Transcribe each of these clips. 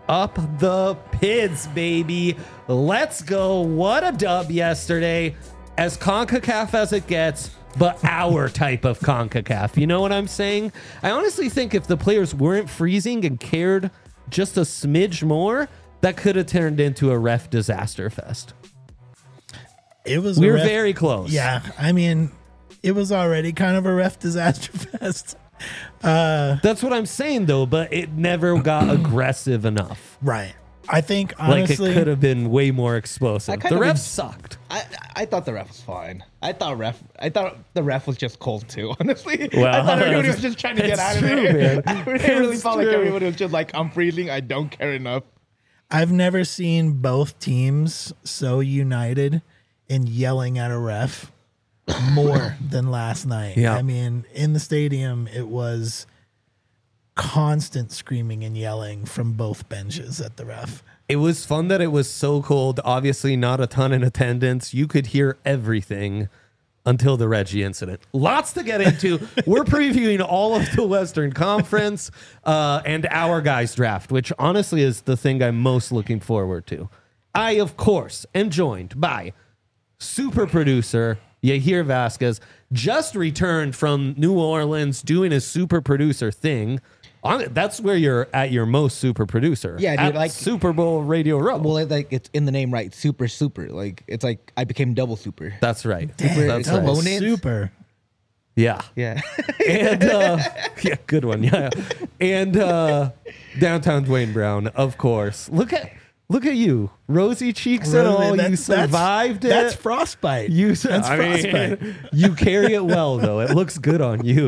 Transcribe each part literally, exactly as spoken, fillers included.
up the Pids, baby. Let's go. What a dub yesterday. As CONCACAF as it gets, but our type of CONCACAF. You know what I'm saying? I honestly think if the players weren't freezing and cared just a smidge more, that could have turned into a ref disaster fest. It was. We were ref, very close. Yeah, I mean, it was already kind of a ref disaster fest. Uh, That's what I'm saying, though, but it never got aggressive enough. Right. I think, honestly... Like, it could have been way more explosive. The refs en- sucked. I I thought the ref was fine. I thought ref. I thought the ref was just cold, too, honestly. Well, I thought everybody was just trying to get out of true, there. Man. I really It's felt true. like everybody was just like, I'm freezing. I don't care enough. I've never seen both teams so united in yelling at a ref more than last night. Yeah. I mean, in the stadium, it was constant screaming and yelling from both benches at the ref. It was fun that it was so cold. Obviously, not a ton in attendance. You could hear everything until the Reggie incident. Lots to get into. We're previewing all of the Western Conference uh, and our guys draft, which honestly is the thing I'm most looking forward to. I, of course, am joined by super producer Yahir Vasquez, just returned from New Orleans doing his super producer thing. On, that's where you're at your most super producer. Yeah, dude, at like- Super Bowl Radio Row. Well, it, like it's in the name, right? Super, super. Like it's like I became double super. That's right. Dang, That's double right. bonus. Super. Yeah. Yeah. And uh, yeah, good one. Yeah. And uh, downtown Dwayne Brown, of course. Look at look at you, rosy cheeks and all. That- You that's- survived it. That's frostbite. You, That's I mean, frostbite. you carry it well, though. It looks good on you.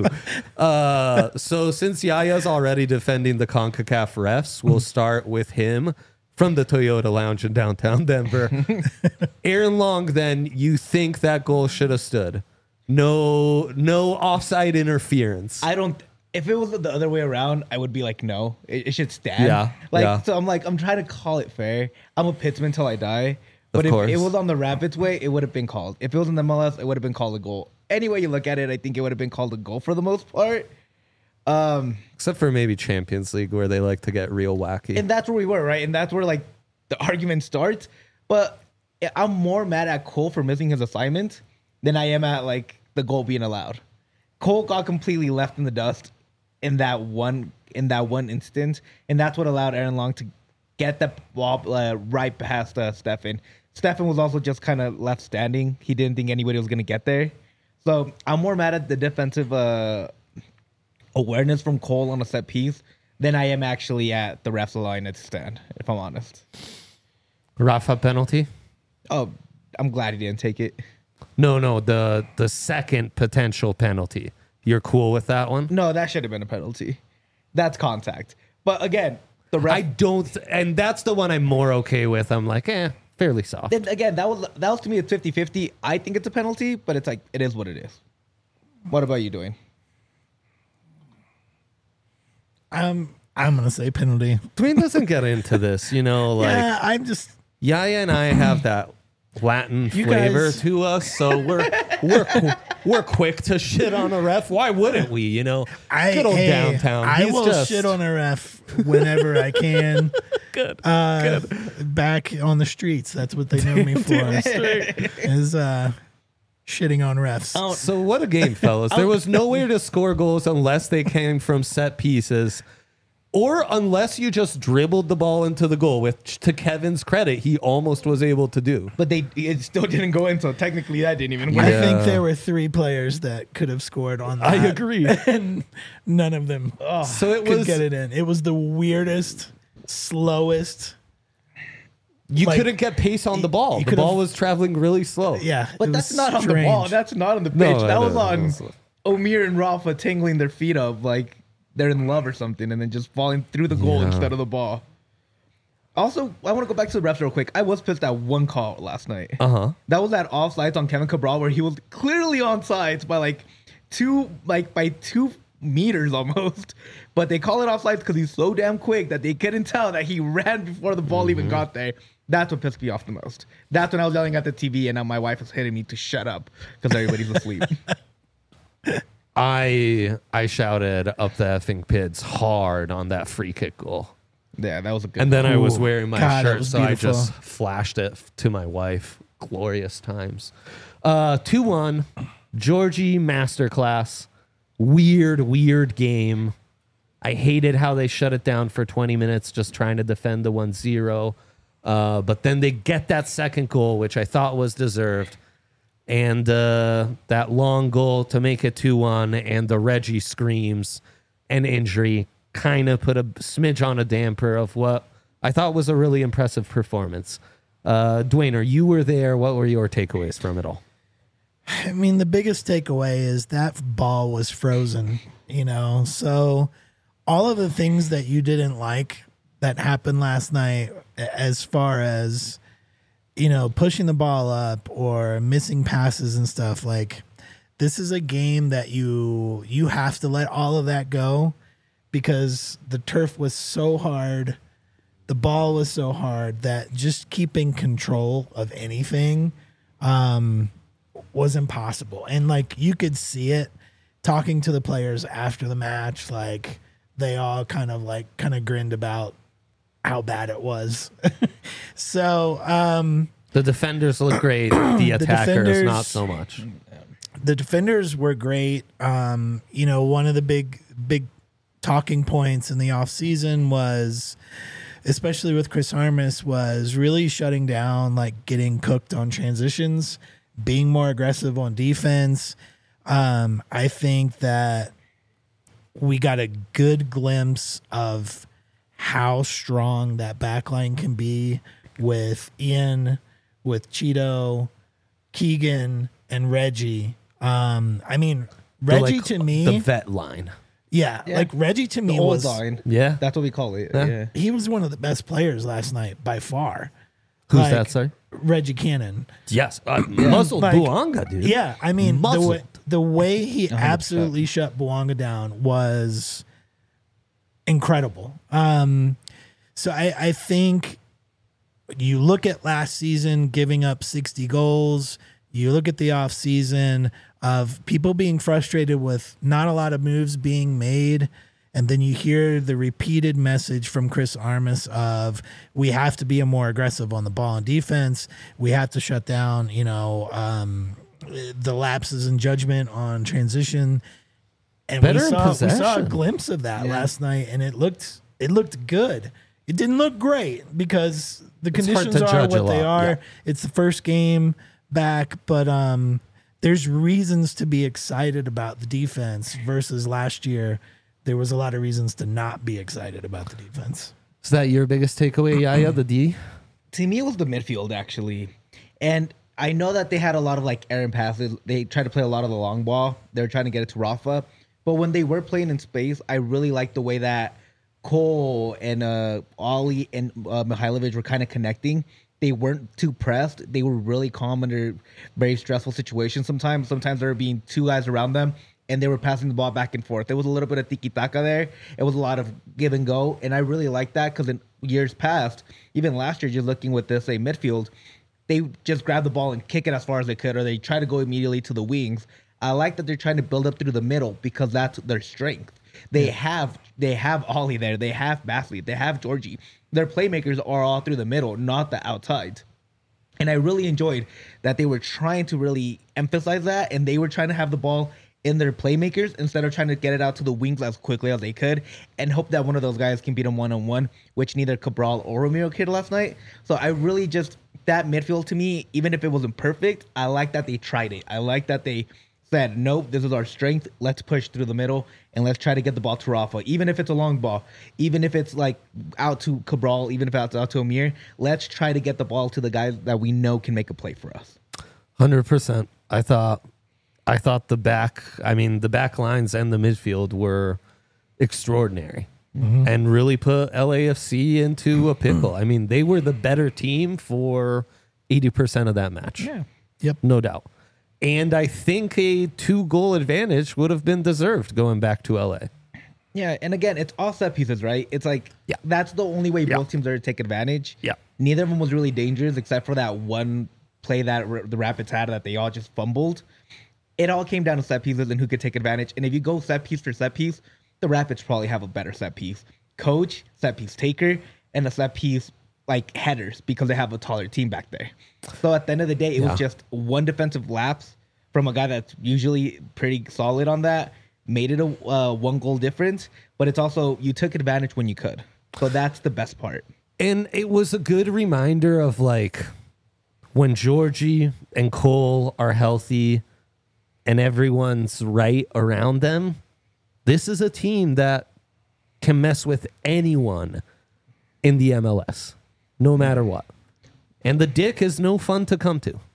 Uh, so since Yaya's already defending the CONCACAF refs, we'll start with him from the Toyota Lounge in downtown Denver. Aaron Long, then, you think that goal should have stood? No, no offside interference. I don't. If it was the other way around, I would be like, no, it, it should stand. Yeah, Like, yeah. so I'm like, I'm trying to call it fair. I'm a Pittsman till I die. But Of if course. it was on the Rapids way, it would have been called. If it was in the M L S, it would have been called a goal. Any way you look at it, I think it would have been called a goal for the most part. Um, Except for maybe Champions League, where they like to get real wacky. and that's where we were, right? And that's where like the argument starts. But I'm more mad at Cole for missing his assignment than I am at like the goal being allowed. Cole got completely left in the dust in that one in that one instance, and that's what allowed Aaron Long to get the ball uh, right past uh, Stefan. Stefan was also just kind of left standing. He didn't think anybody was going to get there. So I'm more mad at the defensive uh, awareness from Cole on a set piece than I am actually at the ref's line at stand, if I'm honest. Rafa penalty? Oh, I'm glad he didn't take it. No, no, the the second potential penalty. You're cool with that one? No, that should have been a penalty. That's contact. But again, the ref. I don't, and that's the one I'm more okay with. I'm like, eh, fairly soft. Then again, that was that was to me it's fifty-fifty. I think it's a penalty, but it's like it is what it is. What about you doing? Um, I'm gonna say penalty. Dwayne doesn't get into this, you know, like yeah, I'm just. Yaya and I have that Latin You flavor guys- to us, so we're we're qu- we're quick to shit on a ref. Why wouldn't we? You know, I, good old hey, downtown. I He's will just, shit on a ref whenever I can. Good. Uh, back on the streets. That's what they know me for. is uh, shitting on refs. So what a game, fellas. There was nowhere to score goals unless they came from set pieces or unless you just dribbled the ball into the goal, which to Kevin's credit, he almost was able to do. But they it still didn't go in, so technically that didn't even I work. Yeah. think there were three players that could have scored on that. I agree. And none of them So it could was get it in. It was the weirdest, slowest. you like, couldn't get pace on the ball. you The could've- ball was traveling really slow. Yeah. But it that's was not on the strange. ball. That's not on the pitch. No, that no, was no, on no. Omir and Rafa tingling their feet up like they're in love or something, and then just falling through the goal Yeah. instead of the ball. Also, I want to go back to the refs real quick. I was pissed at one call last night. Uh huh. That was that offsides on Kevin Cabral where he was clearly onside by like two, like by two meters almost. But they call it offsides because he's so damn quick that they couldn't tell that he ran before the ball even got there. That's what pissed me off the most. That's when I was yelling at the T V and now my wife was hitting me to shut up because everybody's asleep. I I shouted up the effing Pids hard on that free kick goal. Yeah, that was a good. And then I was Ooh. wearing my God, it shirt, was so I beautiful. just flashed it to my wife. Glorious times. Uh, two one, Georgie Masterclass. Weird, weird game. I hated how they shut it down for twenty minutes just trying to defend the one zero. Uh, but then they get that second goal, which I thought was deserved. And uh, that long goal to make it two one, and the Reggie screams and injury kind of put a smidge on a damper of what I thought was a really impressive performance. Uh, Dwayne, you were there. What were your takeaways from it all? I mean, the biggest takeaway is that ball was frozen, you know? So all of the things that you didn't like that happened last night, as far as, you know, pushing the ball up or missing passes and stuff, like, this is a game that you you have to let all of that go, because the turf was so hard, the ball was so hard, that just keeping control of anything um, was impossible. And like, you could see it talking to the players after the match, like they all kind of like kind of grinned about how bad it was. So um, The defenders look great. The attackers, defenders- not so much. the defenders were great. Um, you know, one of the big, big talking points in the offseason was, especially with Chris Armas, was really shutting down, like getting cooked on transitions, being more aggressive on defense. Um, I think that we got a good glimpse of how strong that backline can be with Ian, with Cheeto, Keegan, and Reggie. Um, I mean, The, Reggie like, to me, the vet line. yeah, Yeah. like Reggie to the me old was, line. Yeah. That's what we call it. Yeah. Yeah. he was one of the best players last night by far. Who's Like, that, sorry? Reggie Cannon. Yes. Uh, Muscle Like, Buanga, dude. Yeah, I mean, the Muscled. way, the way he one hundred percent. absolutely shut Buanga down was incredible. Um, so I, I think you look at last season giving up sixty goals. You look at the off season of people being frustrated with not a lot of moves being made. And then you hear the repeated message from Chris Armas of, we have to be more aggressive on the ball and defense. We have to shut down, you know, um, the lapses in judgment on transition. And Better we in saw, we saw a possession. glimpse of that Yeah. last night, and it looked it looked good. It didn't look great because the It's hard conditions to are judge a what they lot, are. yeah. It's the first game back, but um, there's reasons to be excited about the defense versus last year. There was a lot of reasons to not be excited about the defense. Is that your biggest takeaway, Yaya, the D? To me, it was the midfield actually, and I know that they had a lot of like errant passes. They tried to play a lot of the long ball. They were trying to get it to Rafa, but when they were playing in space, I really liked the way that Cole and uh, Ollie and uh, Mihailovic were kind of connecting. They weren't too pressed. They were really calm under very stressful situations. Sometimes, sometimes there were being two guys around them, and they were passing the ball back and forth. There was a little bit of tiki-taka there. It was a lot of give and go, and I really like that because in years past, even last year, just looking with this, say, midfield, they just grab the ball and kick it as far as they could, or they try to go immediately to the wings. I like that they're trying to build up through the middle because that's their strength. They have they have Ollie there. They have Basley. They have Georgie. Their playmakers are all through the middle, not the outside. And I really enjoyed that they were trying to really emphasize that, and they were trying to have the ball in their playmakers instead of trying to get it out to the wings as quickly as they could and hope that one of those guys can beat them one-on-one, which neither Cabral or Romero could last night. So I really just, that midfield to me, even if it wasn't perfect, I like that they tried it. I like that they said, nope, this is our strength. Let's push through the middle and let's try to get the ball to Rafa. Even if it's a long ball, even if it's like out to Cabral, even if it's out to Amir, let's try to get the ball to the guys that we know can make a play for us. one hundred percent. I thought I thought the back, I mean, the back lines and the midfield were extraordinary Mm-hmm. and really put L A F C into a pickle. I mean, they were the better team for eighty percent of that match. Yeah. Yep. No doubt. And I think a two-goal advantage would have been deserved going back to L A. Yeah, and again, it's all set pieces, right? It's like, Yeah. that's the only way Yeah. both teams are to take advantage. Yeah. Neither of them was really dangerous except for that one play that r- the Rapids had that they all just fumbled. It all came down to set pieces and who could take advantage. And if you go set piece for set piece, the Rapids probably have a better set piece. coach, set piece taker, and a set piece like headers because they have a taller team back there. So at the end of the day, it Yeah. was just one defensive lapse from a guy that's usually pretty solid on that, made it a uh, one goal difference, but it's also you took advantage when you could. So that's the best part. And it was a good reminder of like when Georgie and Cole are healthy and everyone's right around them, this is a team that can mess with anyone in the M L S, no matter what. And the dick is no fun to come to.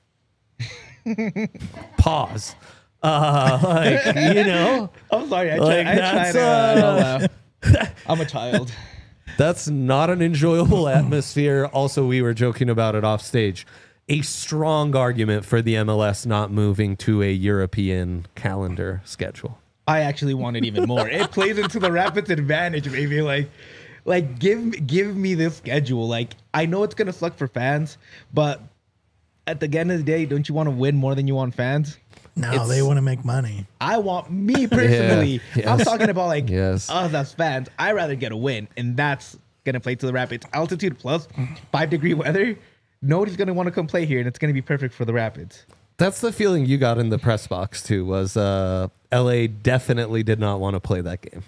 Pause. Uh, like, you know, I'm sorry, I, Like, try, I tried that's, to uh, uh, not laugh. I'm a child. that's not an enjoyable atmosphere. Also, we were joking about it off stage. A strong argument for the M L S not moving to a European calendar schedule. I actually want it even more. It plays into the Rapids' advantage, maybe. Like, like give give me this schedule. Like, I know it's gonna suck for fans, but at the end of the day, don't you want to win more than you want fans? No, It's- they want to make money. I want me personally. Yeah, I'm yes. talking about like Yes. us as fans. I'd rather get a win, and that's gonna play to the Rapids. Altitude plus five degree weather. Nobody's gonna want to come play here, and it's gonna be perfect for the Rapids. That's the feeling you got in the press box too. Was uh, L A definitely did not want to play that game.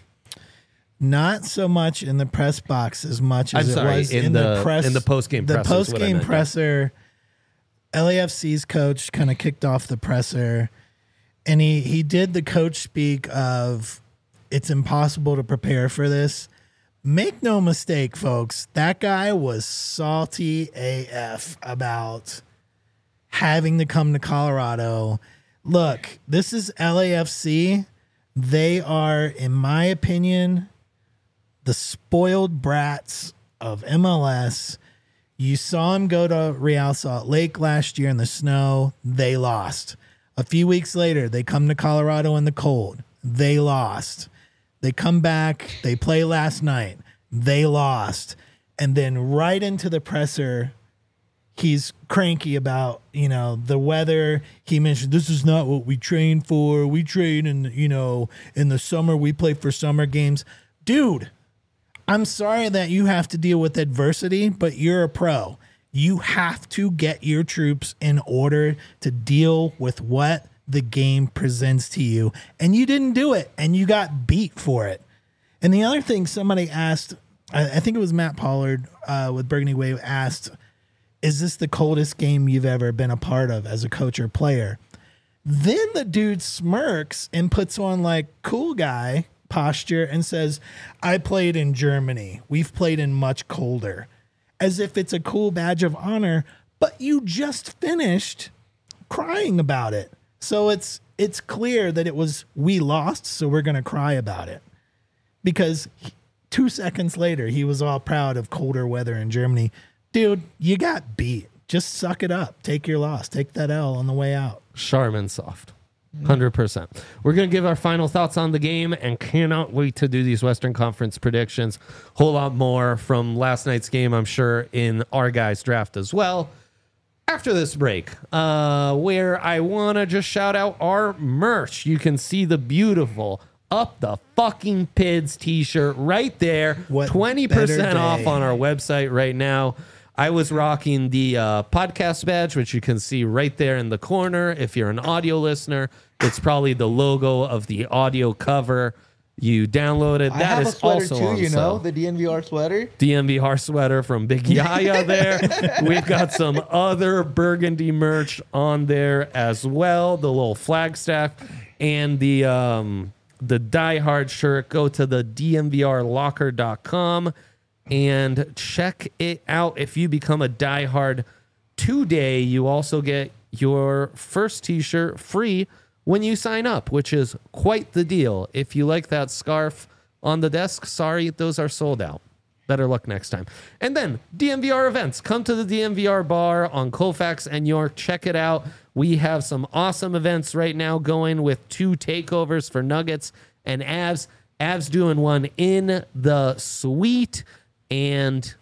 Not so much in the press box as much as I'm it sorry, was in in, the- the, press. in the post-game The presser is what I post-game meant, yeah. presser. L A F C's coach kind of kicked off the presser, and he he did the coach speak of it's impossible to prepare for this. Make no mistake, folks. That guy was salty A F about having to come to Colorado. Look, this is L A F C. They are, in my opinion, the spoiled brats of M L S. You saw him go to Real Salt Lake last year in the snow. They lost. A few weeks later, they come to Colorado in the cold. They lost. They come back. They play last night. They lost. And then right into the presser, he's cranky about, you know, the weather. He mentioned this is not what we train for. We train in, you know, in the summer. We play for summer games. Dude, I'm sorry that you have to deal with adversity, but you're a pro. You have to get your troops in order to deal with what the game presents to you. And you didn't do it, and you got beat for it. And the other thing somebody asked, I, I think it was Matt Pollard uh, with Burgundy Wave asked, is this the coldest game you've ever been a part of as a coach or player? Then the dude smirks and puts on like cool guy posture and says, I played in Germany. We've played in much colder. As if it's a cool badge of honor, but you just finished crying about it. So it's it's clear that it was we lost, so we're going to cry about it. Because he- two seconds later, he was all proud of colder weather in Germany. Dude, you got beat. Just suck it up. Take your loss. Take that L on the way out. Charmin soft. one hundred percent. We're going to give our final thoughts on the game and cannot wait to do these Western Conference predictions. Whole lot more from last night's game, I'm sure, in our guys' draft as well. After this break, uh, where I want to just shout out our merch. You can see the beautiful Up the Fucking Pids t-shirt right there. What twenty percent better off day. on our website right now. I was rocking the uh, podcast badge, which you can see right there in the corner. If you're an audio listener, it's probably the logo of the audio cover. You download it. I That have is a sweater also too, on you sale. know, the D N V R sweater. D M V R sweater from Big Yaya there. We've got some other Burgundy merch on there as well. The little Flagstaff and the um, the Die Hard shirt. Go to the D M V R locker dot com and check it out. If you become a Die Hard today, you also get your first t-shirt free when you sign up, which is quite the deal. If you like that scarf on the desk, sorry, those are sold out. Better luck next time. And then D M V R events. Come to the D M V R bar on Colfax and York. Check it out. We have some awesome events right now going with two takeovers for Nuggets and Avs. Avs doing one in the suite, and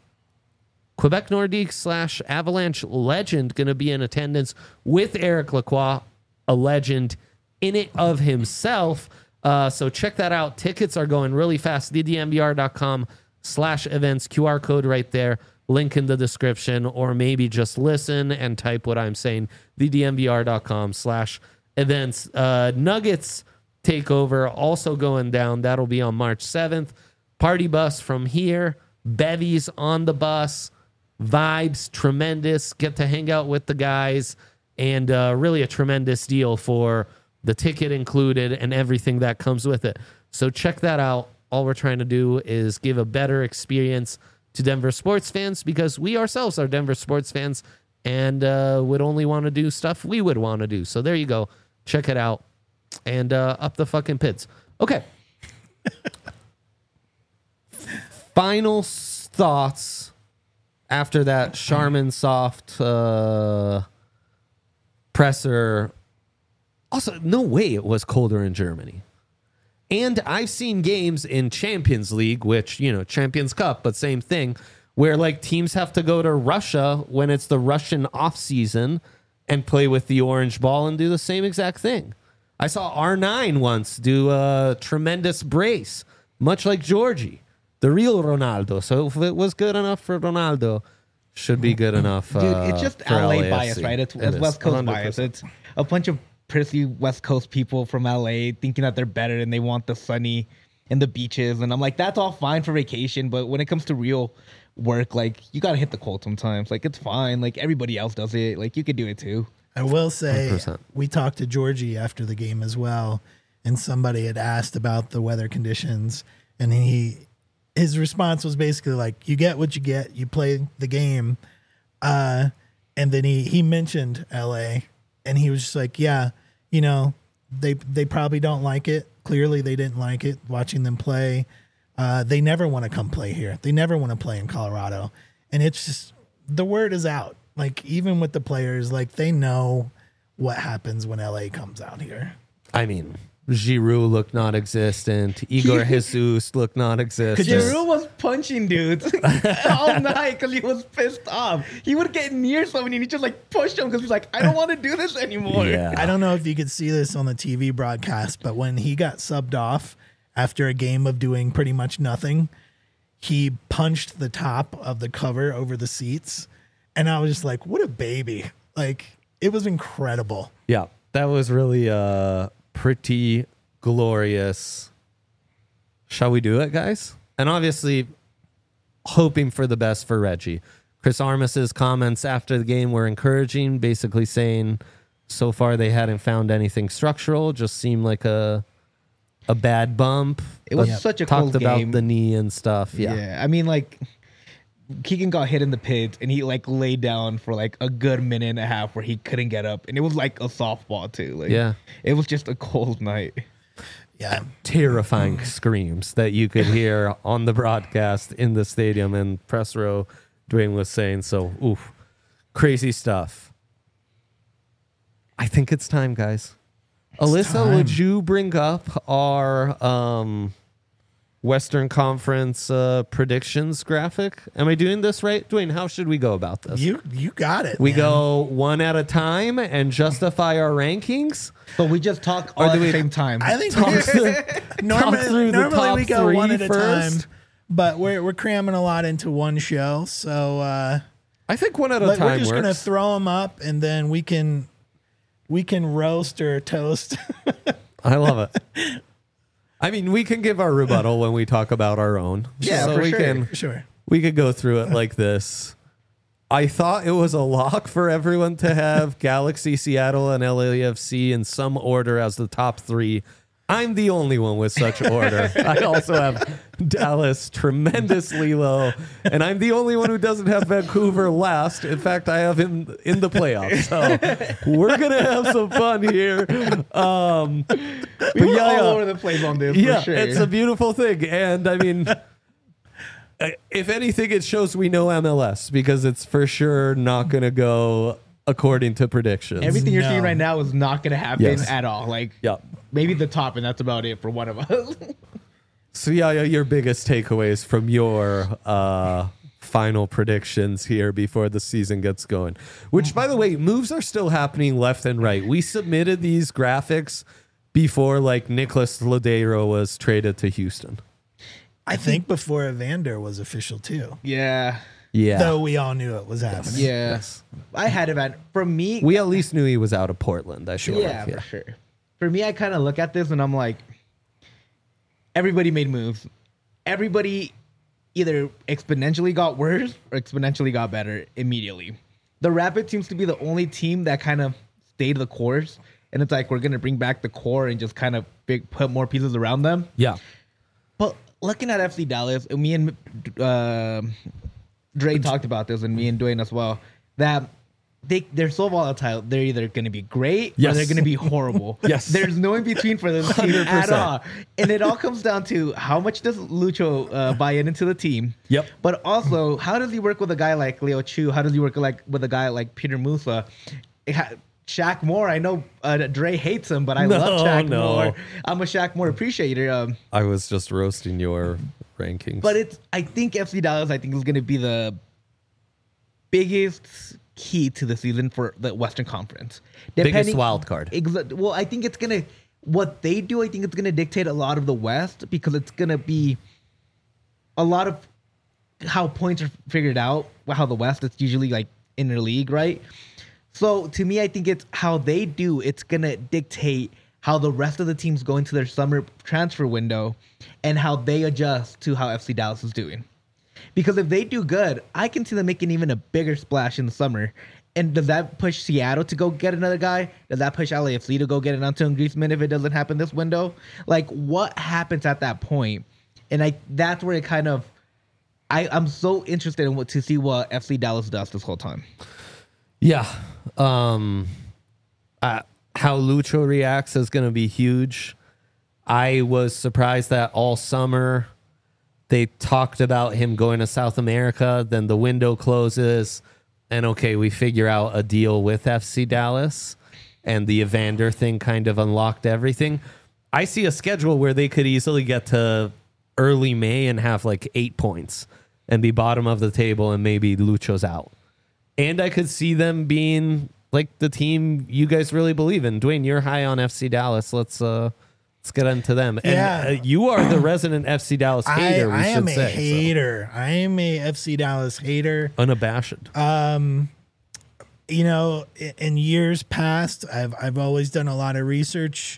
Quebec Nordique slash Avalanche legend going to be in attendance with Eric Lacroix, a legend in it of himself. Uh, so check that out. Tickets are going really fast. the D M V R dot com slash events, Q R code right there, link in the description, or maybe just listen and type what I'm saying, the D M V R dot com slash events. Uh, Nuggets takeover also going down. That'll be on March seventh. Party bus from here. Bevies on the bus. Vibes, tremendous. Get to hang out with the guys. And uh, really a tremendous deal for the ticket included and everything that comes with it. So check that out. All we're trying to do is give a better experience to Denver sports fans because we ourselves are Denver sports fans and uh, would only want to do stuff we would want to do. So there you go. Check it out. And uh, up the fucking pits. Okay. Final thoughts after that Charmin Soft uh, presser. Also, no way it was colder in Germany. And I've seen games in Champions League, which, you know, Champions Cup, but same thing, where like teams have to go to Russia when it's the Russian off season and play with the orange ball and do the same exact thing. I saw R nine once do a tremendous brace, much like Georgie, the real Ronaldo. So if it was good enough for Ronaldo, should be good enough. Dude, uh, it's just for L A L A F C. bias, right? It's, It it's is, West Coast one hundred bias. percent. It's a bunch of prissy West Coast people from L A thinking that they're better and they want the sunny and the beaches. And I'm like, that's all fine for vacation, but when it comes to real work, like you gotta hit the cold sometimes. Like it's fine. Like everybody else does it. Like you could do it too. I will say one hundred percent. we talked to Georgie after the game as well, and somebody had asked about the weather conditions, and he his response was basically like, "You get what you get. You play the game," uh, and then he he mentioned L A, and he was just like, "Yeah, you know, they they probably don't like it. Clearly, they didn't like it watching them play. Uh, they never want to come play here. They never want to play in Colorado, and it's just the word is out." Like, even with the players, like, they know what happens when L A comes out here. I mean, Giroud looked non-existent. Igor Jesus looked non-existent. Giroud was punching dudes all night because he was pissed off. He would get near somebody and he just like pushed him because he's like, I don't want to do this anymore. Yeah. I don't know if you could see this on the T V broadcast, but when he got subbed off after a game of doing pretty much nothing, he punched the top of the cover over the seats. And I was just like, what a baby. Like, it was incredible. Yeah, that was really uh, pretty glorious. Shall we do it, guys? And obviously, hoping for the best for Reggie. Chris Armas's comments after the game were encouraging, basically saying so far they hadn't found anything structural, just seemed like a a bad bump. It was But such a talked close about game. the knee and stuff. Yeah. Yeah. I mean, like, Keegan got hit in the pit and he like laid down for like a good minute and a half where he couldn't get up. And it was like a softball too. Like, Yeah. It was just a cold night. Yeah. Terrifying screams that you could hear on the broadcast in the stadium and press row. Dwayne was saying, so, oof, crazy stuff. I think it's time, guys. Alyssa, time. would you bring up our um, Western Conference uh, predictions graphic? Am I doing this right? Dwayne, how should we go about this? You you got it. we man. go one at a time and justify our rankings? But we just talk Or all do at the we- same time. I think Talk we- through- normally, talk through the normally top we go three one at a first. time, but we're we're cramming a lot into one show. So uh, I think one at a but time we're just works. gonna throw them up, and then we can we can roast or toast. I love it. I mean, we can give our rebuttal when we talk about our own. Yeah, so for we sure. can Sure. we could go through it like this. I thought it was a lock for everyone to have Galaxy, Seattle, and L A F C in some order as the top three. I'm the only one with such order. I also have Dallas tremendously low, and I'm the only one who doesn't have Vancouver last. In fact, I have him in the playoffs. So we're gonna have some fun here. Um, but we were yeah, all yeah. over the place on this Yeah, for sure. it's a beautiful thing. And I mean, if anything, it shows we know M L S because it's for sure not going to go according to predictions. Everything you're No. seeing right now is not going to happen Yes. at all. Like, Yeah. maybe the top, and that's about it for one of us. So, yeah, yeah, your biggest takeaways from your uh, final predictions here before the season gets going. Which, by the way, moves are still happening left and right. We submitted these graphics before, like, Nicholas Lodeiro was traded to Houston. I think before Evander was official too. Yeah. Yeah. Though we all knew it was happening. Yeah. I had him at, for me. We at least knew he was out of Portland. I sure. Yeah, Yeah. for sure. For me, I kind of look at this and I'm like, everybody made moves. Everybody either exponentially got worse or exponentially got better immediately. The Rapids seems to be the only team that kind of stayed the course. And it's like, we're going to bring back the core and just kind of big, put more pieces around them. Yeah. But looking at F C Dallas, and me and uh, Dre talked about this, and me and Dwayne as well, that they, they're so volatile. They're either going to be great Yes. or they're going to be horrible. Yes. There's no in between for this team one hundred at percent. all. And it all comes down to how much does Lucho uh, buy in into the team? Yep. But also, how does he work with a guy like Leo Chu? How does he work like with a guy like Peter Musa? It ha- Shaq Moore, I know uh, Dre hates him, but I No, love Shaq no. Moore. I'm a Shaq Moore appreciator. Um, I was just roasting your rankings. but it's, I think F C Dallas, I think is going to be the biggest key to the season for the Western Conference. Biggest wild card. Exa- well, I think it's going to, what they do, I think it's going to dictate a lot of the West because it's going to be a lot of how points are figured out, how the West, it's usually like interleague, right? So to me, I think it's how they do. It's going to dictate how the rest of the teams go into their summer transfer window and how they adjust to how F C Dallas is doing. Because if they do good, I can see them making even a bigger splash in the summer. And does that push Seattle to go get another guy? Does that push L A F C to go get an Antoine Griezmann if it doesn't happen this window? Like, what happens at that point? And I that's where it kind of, I, I'm so interested in what to see what F C Dallas does this whole time. Yeah. Um, uh, how Lucho reacts is going to be huge. I was surprised that all summer they talked about him going to South America. Then the window closes and okay, we figure out a deal with F C Dallas and the Evander thing kind of unlocked everything. I see a schedule where they could easily get to early May and have like eight points and be bottom of the table and maybe Lucho's out. And I could see them being like the team you guys really believe in. Dwayne, you're high on F C Dallas. Let's uh, let's get into them. And Yeah. uh, you are the resident F C Dallas I, hater. we I should am a say, so. hater. I am a F C Dallas hater. Unabashed. Um, you know, i- in years past, I've I've always done a lot of research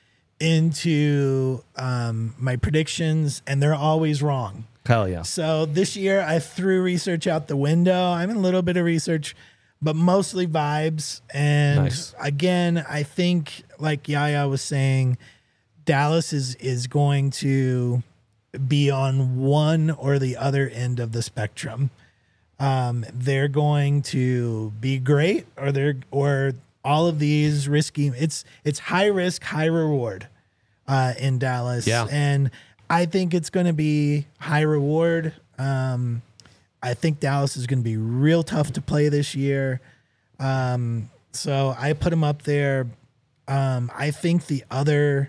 into um, my predictions, and they're always wrong. Hell yeah. So this year, I threw research out the window. I'm in a little bit of research, but mostly vibes. And Nice. again, I think, like Yaya was saying, Dallas is is going to be on one or the other end of the spectrum. Um, they're going to be great, or they're or all of these risky. It's it's high risk, high reward uh, in Dallas, Yeah. and I think it's going to be high reward. Um, I think Dallas is going to be real tough to play this year. Um, so I put them up there. Um, I think the other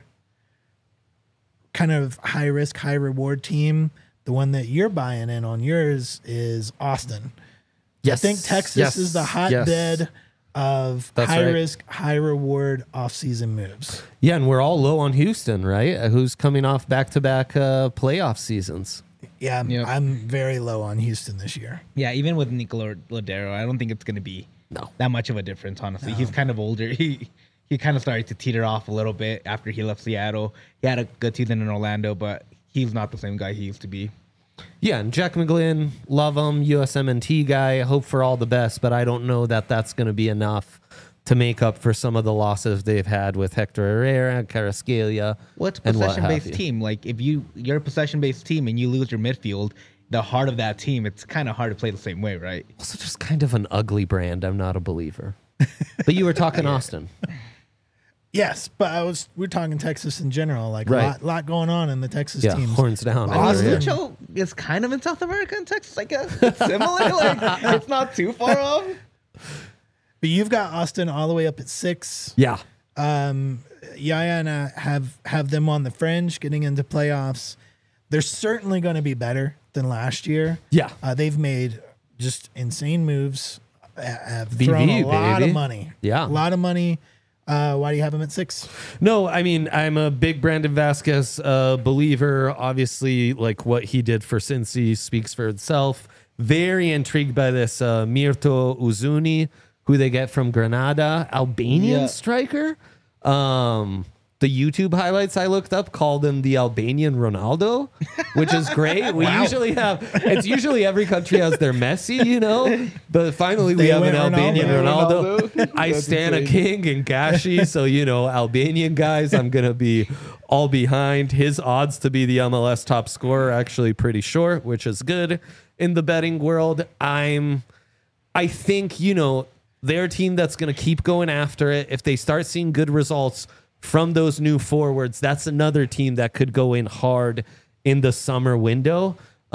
kind of high risk, high reward team, the one that you're buying in on yours, is Austin. Yes. I think Texas Yes. is the Yes. hotbed of That's high right. risk, high reward offseason moves. Yeah, and we're all low on Houston, right? Uh, Who's coming off back-to-back uh, playoff seasons. Yeah, I'm, Yep. I'm very low on Houston this year. Yeah, even with Nicola Ladero, I don't think it's going to be No. that much of a difference, honestly. He's kind of older. He he kind of started to teeter off a little bit after he left Seattle. He had a good season in Orlando, but he's not the same guy he used to be. Yeah, and Jack McGlynn, love him, U S M N T guy, hope for all the best, but I don't know that that's going to be enough to make up for some of the losses they've had with Hector Herrera, Carrasquilla, What's and what have possession-based you. team? Like, if you, you're a possession-based team and you lose your midfield, the heart of that team, it's kind of hard to play the same way, right? Also just kind of an ugly brand. I'm not a believer. But you were talking Austin. Yes, but I was we're talking Texas in general, like a Right. lot, lot going on in the Texas Yeah, teams. horns down. I mean, Austin. Yeah. Lucho is kind of in South America and Texas, I guess. It's similar. like, it's not too far off. But you've got Austin all the way up at six. Yeah. Um, Yaya and I have have them on the fringe, getting into playoffs. They're certainly going to be better than last year. Yeah. Uh, they've made just insane moves. uh, Have B V, thrown a lot baby. of money. Yeah. a lot of money Uh, why do you have him at six? No, I mean, I'm a big Brandon Vasquez uh, believer. Obviously, like what he did for Cincy speaks for itself. Very intrigued by this uh, Mirto Uzuni, who they get from Granada, Albanian Yeah. striker. Um, the YouTube highlights I looked up called him the Albanian Ronaldo, which is great. We usually have, it's usually every country has their Messi, you know, but finally we They have an went Albanian Ronaldo. Ronaldo. Ronaldo. I That's stand a insane. king and Gashi, so, you know, Albanian guys, I'm going to be all behind. His odds to be the M L S top scorer are actually pretty short, which is good in the betting world. I'm, I think, you know, they're a team that's going to keep going after it. If they start seeing good results from those new forwards, that's another team that could go in hard in the summer window.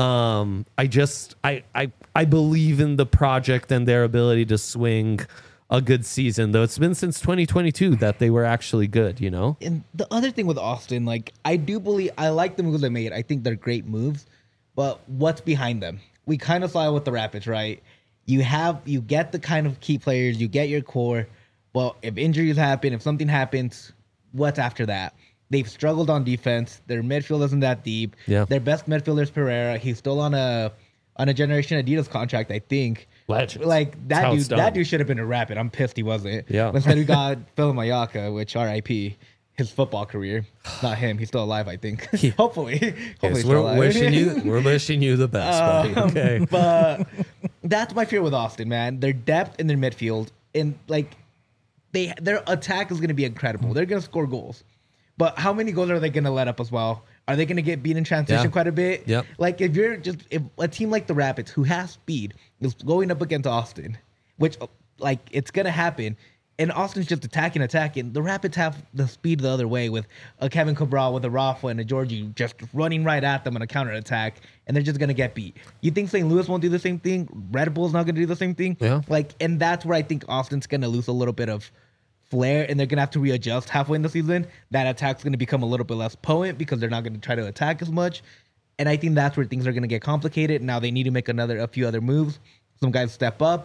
Um, I just, I, I, I believe in the project and their ability to swing a good season, though it's been since twenty twenty-two that they were actually good, you know? And the other thing with Austin, like I do believe I like the moves they made. I think they're great moves, but what's behind them? We kind of saw it with the Rapids, right? You have you get the kind of key players, you get your core. Well, if injuries happen, if something happens, what's after that? They've struggled on defense. Their midfield isn't that deep. Yeah. Their best midfielder is Pereira. He's still on a on a Generation Adidas contract, I think. Legends. Like That's that how dude, it's done. that dude should have been a Rapid. I'm pissed he wasn't. Yeah. Instead we got Phil Mayaka, which R I P his football career. Not him. He's still alive, I think. Hopefully. Hopefully Yes, he's we're still alive. wishing you, we're wishing you the best, buddy. Um, Okay. But that's my fear with Austin, man. Their depth in their midfield and like they their attack is going to be incredible. They're going to score goals. But how many goals are they going to let up as well? Are they going to get beat in transition Yeah. quite a bit? Yep. Like if you're just if a team like the Rapids who has speed is going up against Austin, which like it's going to happen, and Austin's just attacking, attacking. The Rapids have the speed the other way with a Kevin Cabral, with a Rafa and a Georgie just running right at them on a counter attack, and they're just gonna get beat. You think Saint Louis won't do the same thing? Red Bull's not gonna do the same thing? Yeah. Like, and that's where I think Austin's gonna lose a little bit of flair, and they're gonna have to readjust halfway in the season. That attack's gonna become a little bit less potent because they're not gonna try to attack as much. And I think that's where things are gonna get complicated. Now they need to make another a few other moves. Some guys step up.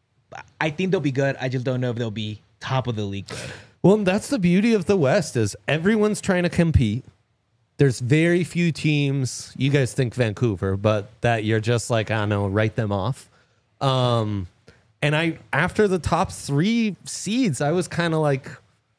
I think they'll be good. I just don't know if they'll be top of the league good. Well, that's the beauty of the West is everyone's trying to compete. There's very few teams. You guys think Vancouver, but that you're just like, I don't know, write them off. Um, and I, after the top three seeds, I was kind of like,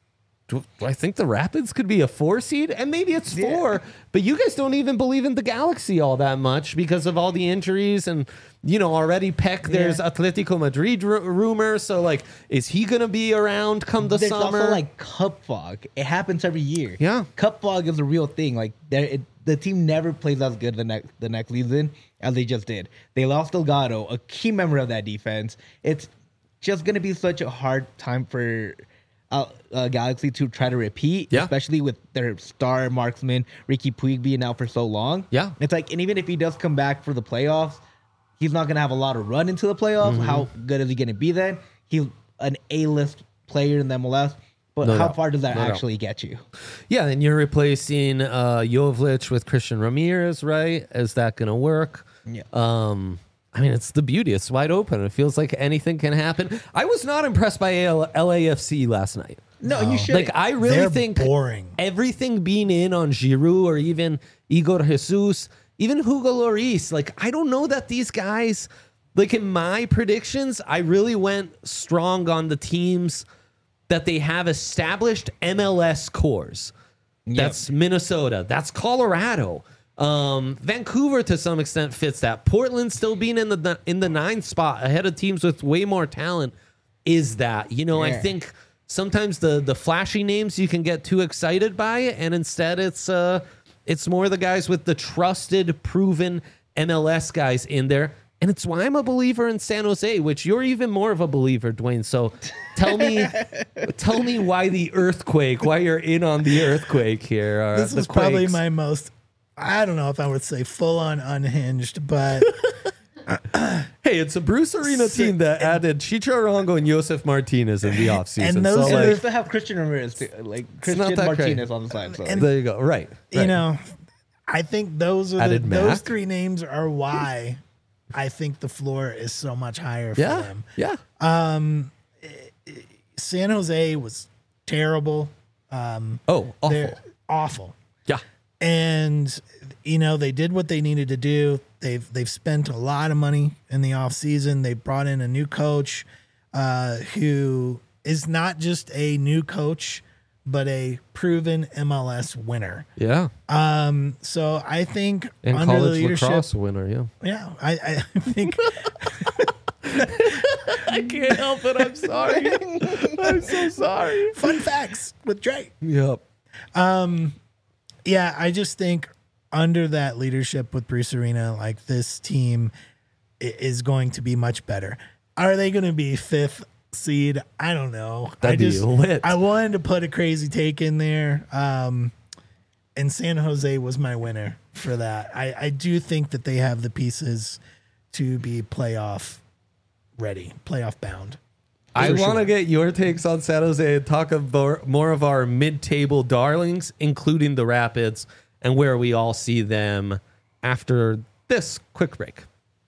do, do I think the Rapids could be a four seed? And maybe it's four, but you guys don't even believe in the Galaxy all that much because of all the injuries and, you know, already Peck, there's Yeah. Atletico Madrid r- rumor. So, like, is he going to be around come the There's summer? also like cup fog. It happens every year. Yeah. Cup fog is a real thing. Like there, it, the team never plays as good the next the next season as they just did. They lost Delgado, a key member of that defense. It's just gonna be such a hard time for uh, uh, Galaxy to try to repeat, Yeah. especially with their star marksman Ricky Puig being out for so long. Yeah. It's like, and even if he does come back for the playoffs, he's not gonna have a lot of run into the playoffs. Mm-hmm. How good is he gonna be then? He's an A-list player in the M L S, but No how doubt. far does that No doubt. actually get you? Yeah, and you're replacing uh, Jovic with Christian Ramirez, right? Is that going to work? Yeah. Um, I mean, it's the beauty. It's wide open. It feels like anything can happen. I was not impressed by L- LAFC last night. No, you should. Like, I really They're think boring. everything being in on Giroud or even Igor Jesus, even Hugo Lloris, like, I don't know that these guys, like, in my predictions, I really went strong on the teams that they have established M L S cores. That's Minnesota. That's Colorado. Um, Vancouver to some extent fits that. Portland still being in the in the nine spot ahead of teams with way more talent is that. You know, I Yeah. think sometimes the the flashy names you can get too excited by, and instead it's uh it's more the guys with the trusted, proven M L S guys in there. And it's why I'm a believer in San Jose, which you're even more of a believer, Dwayne. So tell me, tell me why the earthquake, why you're in on the earthquake here. Or This the is probably Quakes. my most, I don't know if I would say full on unhinged, but Hey, it's a Bruce Arena team that added Chicho Arango and Josef Martinez in the offseason. And those so, are And they like, still have Christian Ramirez, too, like not Christian that Martinez great. on the side. So. And- there you go. Right. you right. know, I think those are the, Added those Mac. three names are why I think the floor is so much higher for Yeah. them. Yeah. San Jose was terrible. Um, Oh, they're awful. awful. Yeah. And you know, they did what they needed to do. They've they've spent a lot of money in the offseason. They brought in a new coach uh, who is not just a new coach, but a proven M L S winner. Yeah. Um, so I think And under the college leadership, lacrosse winner, yeah. yeah, I, I think I can't help it. I'm sorry. I'm so sorry. fun facts with Drake. Yep. Yeah, I just think under that leadership with Bruce Arena, like this team i- is going to be much better. Are they going to be fifth seed? I don't know. That'd I be just lit. I wanted to put a crazy take in there, um, and San Jose was my winner for that. I, I do think that they have the pieces to be playoff ready, playoff bound. I For want to sure. get your takes on San Jose and talk about more of our mid-table darlings, including the Rapids, and where we all see them after this quick break.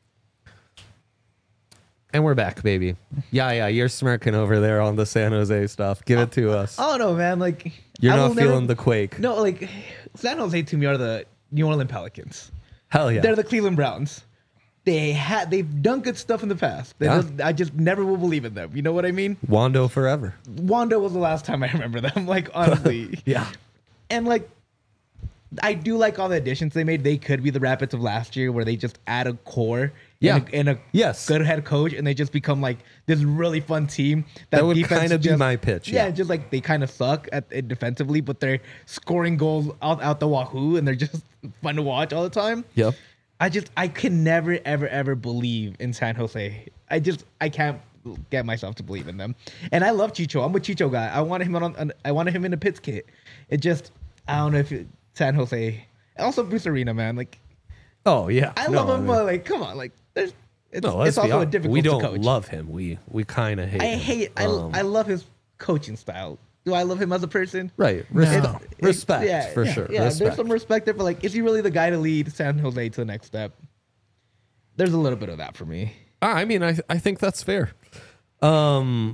And we're back, baby. Yeah, yeah, you're smirking over there on the San Jose stuff. Give it to us. I don't know, man. Like You're I not will never- feeling the quake. No, like San Jose to me are the New Orleans Pelicans. Hell yeah. They're the Cleveland Browns. They had they've done good stuff in the past. They Yeah. just, I just never will believe in them. You know what I mean? Wando forever. Wando was the last time I remember them. Like honestly, Yeah. and like I do like all the additions they made. They could be the Rapids of last year, where they just add a core, Yeah. and a, and a Yes. good head coach, and they just become like this really fun team. That would defense kinda be just- my pitch, Yeah, yeah. just like they kind of suck at it defensively, but they're scoring goals out out the wahoo, and they're just fun to watch all the time. Yep. I just I can never ever ever believe in San Jose. I just I can't get myself to believe in them. And I love Chicho. I'm a Chicho guy. I wanted him on, on I wanted him in a Pitts kit. It just I don't know if it, San Jose. Also Bruce Arena, man. Like Oh, yeah. I No, love him, mean- but like come on, like there's it's, No, let's it's be also a honest. difficult We don't to coach. love him. We we kind of hate I him. hate I Um, I love his coaching style. Do I love him as a person? Right. Respect, No. It- respect yeah, for yeah, sure. Yeah, respect. there's some respect there, but like, is he really the guy to lead San Jose to the next step? There's a little bit of that for me. Ah, I mean, I I think that's fair. Um,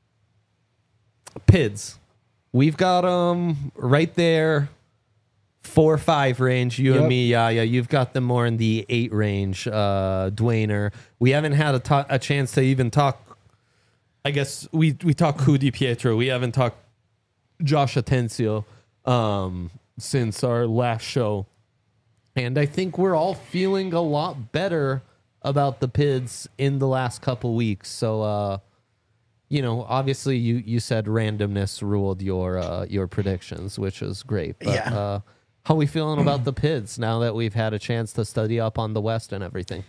P I Ds, we've got um right there, four or five range. You and Yep. me, yeah, yeah. You've got them more in the eight range. Uh, Dwayner, we haven't had a, to- a chance to even talk. I guess we we talked Cu Di Pietro. We haven't talked Josh Atencio um since our last show. And I think we're all feeling a lot better about the P I Ds in the last couple weeks. So, uh, you know, obviously you, you said randomness ruled your uh, your predictions, which is great. But, Yeah. uh, how are we feeling about the P I Ds now that we've had a chance to study up on the West and everything?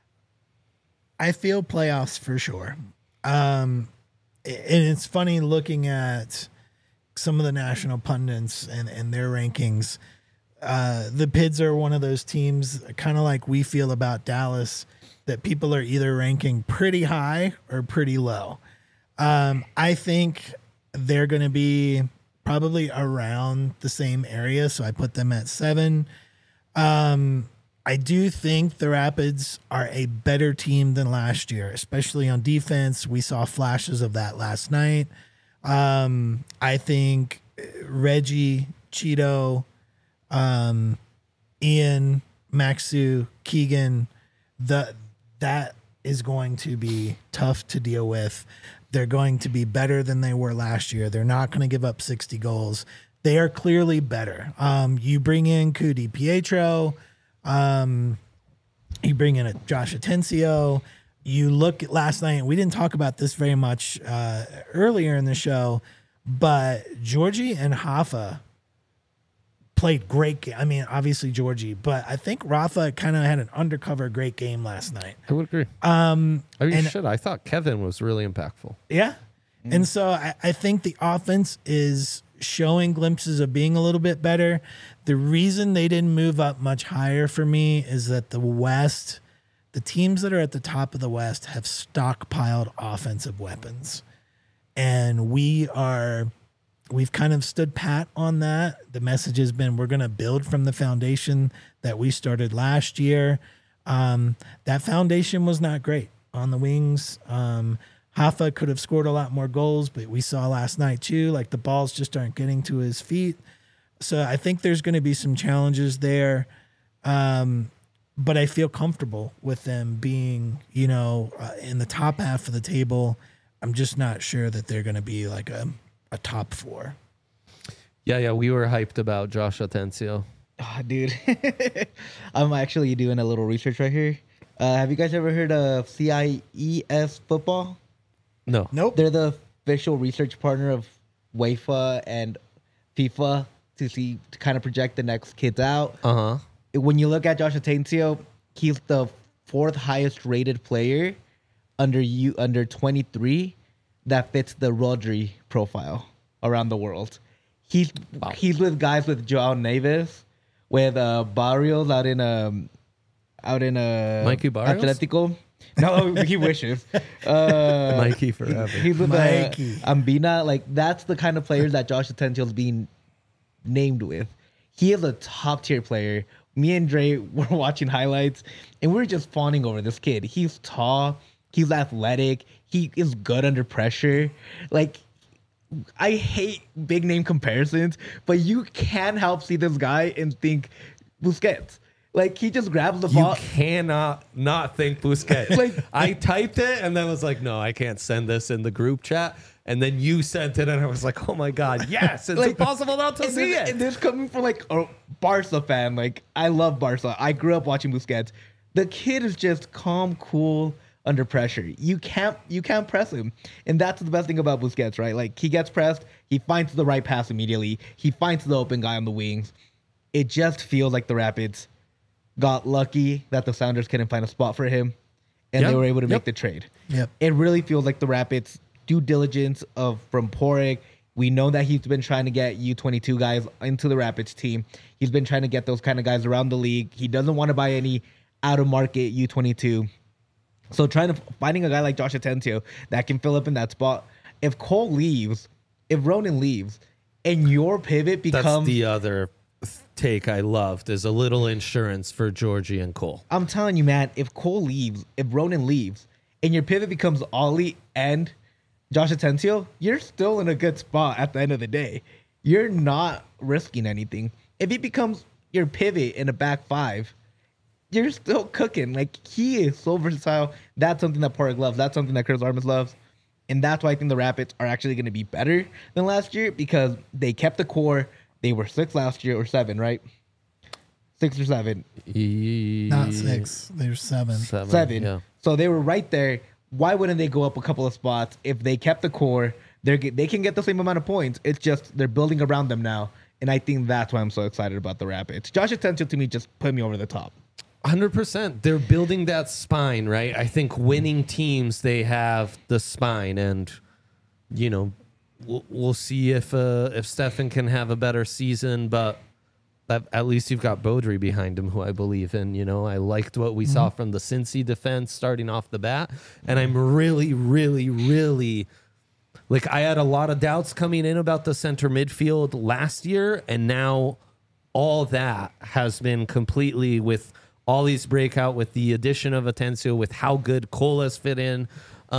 I feel playoffs for sure. Um, and it's funny looking at some of the national pundits and, and their rankings. Uh, the P I Ds are one of those teams, kind of like we feel about Dallas, that people are either ranking pretty high or pretty low. Um, I think they're going to be probably around the same area, so I put them at seven. Um, I do think the Rapids are a better team than last year, especially on defense. We saw flashes of that last night. Um, I think Reggie, Cheeto, um, Ian, Maxu, Keegan, the that is going to be tough to deal with. They're going to be better than they were last year. They're not going to give up sixty goals. They are clearly better. Um, you bring in Cu Di Pietro, um, you bring in a Josh Atencio. You look at last night, we didn't talk about this very much uh, earlier in the show, but Georgie and Hoffa played great. Ga- I mean, obviously Georgie, but I think Rafa kind of had an undercover great game last night. I would agree. Um, I mean, and- shit, I thought Kevin was really impactful. Yeah. And so I, I think the offense is showing glimpses of being a little bit better. The reason they didn't move up much higher for me is that the West, the teams that are at the top of the West have stockpiled offensive weapons. And we are, we've kind of stood pat on that. The message has been we're going to build from the foundation that we started last year. Um, that foundation was not great on the wings. Um, Hoffa could have scored a lot more goals, but we saw last night too, like the balls just aren't getting to his feet. So I think there's going to be some challenges there. Um, but I feel comfortable with them being, you know, uh, in the top half of the table. I'm just not sure that they're going to be like a, a top four. Yeah, yeah, we were hyped about Josh Atencio. Oh, dude. I'm actually doing a little research right here. Uh, have you guys ever heard of C I E S football? No. Nope. They're the official research partner of UEFA and FIFA to see to kind of project the next kids out. Uh-huh. When you look at Josh Atencio, he's the fourth highest rated player under you under twenty-three that fits the Rodri profile around the world. He's Wow. he's with guys with Joao Neves, with uh, Barrios out in um out in uh Mikey Barrios? Atletico. No, he wishes. Uh, Mikey forever. He's with Mikey. uh, Ambina. Like that's the kind of players that Josh Atencio is being named with. He is a top tier player. Me and Dre were watching highlights, and we were just fawning over this kid. He's tall. He's athletic. He is good under pressure. Like, I hate big name comparisons, but you can't help see this guy and think Busquets. Like, he just grabs the You ball. cannot not think Busquets. Like- I typed it and then was like, no, I can't send this in the group chat. And then you sent it and I was like, oh my God, yes, it's Like- impossible not to And see this, it. and this coming from like a Barca fan. Like, I love Barca. I grew up watching Busquets. The kid is just calm, cool under pressure. You can't you can't press him. And that's the best thing about Busquets, right? Like, he gets pressed, he finds the right pass immediately. He finds the open guy on the wings. It just feels like the Rapids got lucky that the Sounders couldn't find a spot for him, and Yep. they were able to Yep. make the trade. Yep. It really feels like the Rapids' due diligence of from Porig. We know that he's been trying to get U twenty-two guys into the Rapids team. He's been trying to get those kind of guys around the league. He doesn't want to buy any out of market U twenty-two. So trying to finding a guy like Josh Atencio that can fill up in that spot. If Cole leaves, if Ronan leaves, and your pivot That's becomes the other take I loved is a little insurance for Georgie and Cole. I'm telling you, man, if Cole leaves, if Ronan leaves, and your pivot becomes Ollie and Josh Atencio, you're still in a good spot at the end of the day. You're not risking anything. If he becomes your pivot in a back five, you're still cooking. Like, he is so versatile. That's something that Porig loves. That's something that Chris Armas loves. And that's why I think the Rapids are actually going to be better than last year, because they kept the core. They were six last year, or seven, right? Six or seven. Not six. There's seven. Seven. Seven. Yeah. So they were right there. Why wouldn't they go up a couple of spots if they kept the core? They they can get the same amount of points. It's just they're building around them now, and I think that's why I'm so excited about the Rapids. Josh Atencio to me just put me over the top. one hundred percent. They're building that spine, right? I think winning teams, they have the spine, and you know, we'll, we'll see if uh, if Stefan can have a better season, but that, at least you've got Baudry behind him, who I believe in. You know, I liked what we mm-hmm. saw from the Cincy defense starting off the bat, and I'm really, really, really like I had a lot of doubts coming in about the center midfield last year, and now all that has been completely with Ollie's breakout, with the addition of Atencio, with how good Cole has fit in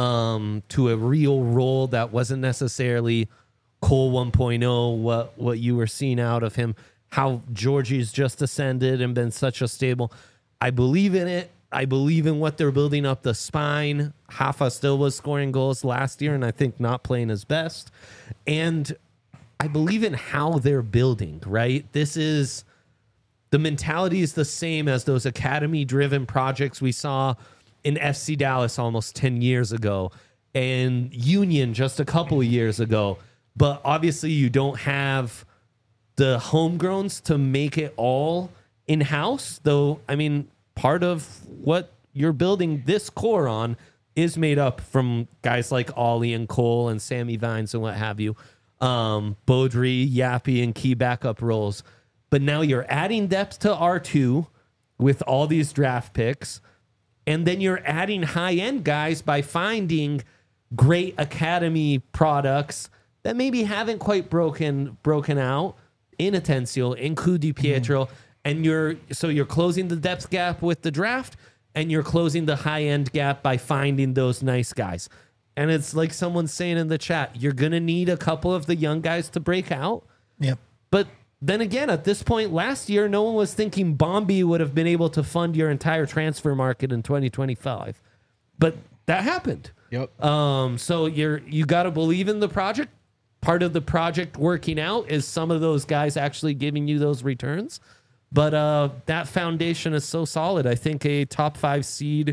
um, to a real role that wasn't necessarily Cole one point oh, what, what you were seeing out of him, how Georgie's just ascended and been such a stable. I believe in it. I believe in what they're building up the spine. Hoffa still was scoring goals last year, and I think not playing his best. And I believe in how they're building, right? This is... The mentality is the same as those academy-driven projects we saw in F C Dallas almost ten years ago and Union just a couple of years ago. But obviously you don't have the homegrowns to make it all in-house, though, I mean, part of what you're building this core on is made up from guys like Ollie and Cole and Sammy Vines and what have you, um, Baudry, Yappy, and key backup roles. But now you're adding depth to R two with all these draft picks, and then you're adding high-end guys by finding great academy products that maybe haven't quite broken broken out in Atencio, in Cu Di Pietro, mm-hmm. and you're so you're closing the depth gap with the draft, and you're closing the high-end gap by finding those nice guys. And it's like someone's saying in the chat, you're going to need a couple of the young guys to break out. Yep. But then again, at this point last year, no one was thinking Bombi would have been able to fund your entire transfer market in twenty twenty-five. But that happened. Yep. Um, so you're you got to believe in the project. Part of the project working out is some of those guys actually giving you those returns. But uh, that foundation is so solid. I think a top five seed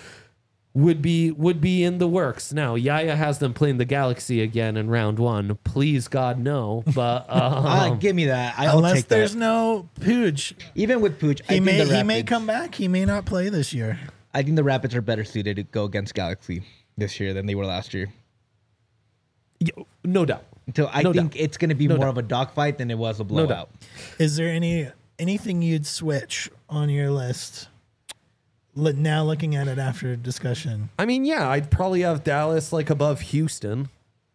would be would be in the works. Now, Yaya has them playing the Galaxy again in round one. Please, God, no. But um, uh, give me that. I'll Unless take there's that. no Pooch. Even with Pooch, I He think may the he may Rapids- come back. He may not play this year. I think the Rapids are better suited to go against Galaxy this year than they were last year. no doubt. So I No think doubt. it's going to be No more doubt. of a dogfight than it was a No blowout. doubt. Is there any anything you'd switch on your list? Look- Now looking at it after discussion. I mean, yeah, I'd probably have Dallas like above Houston.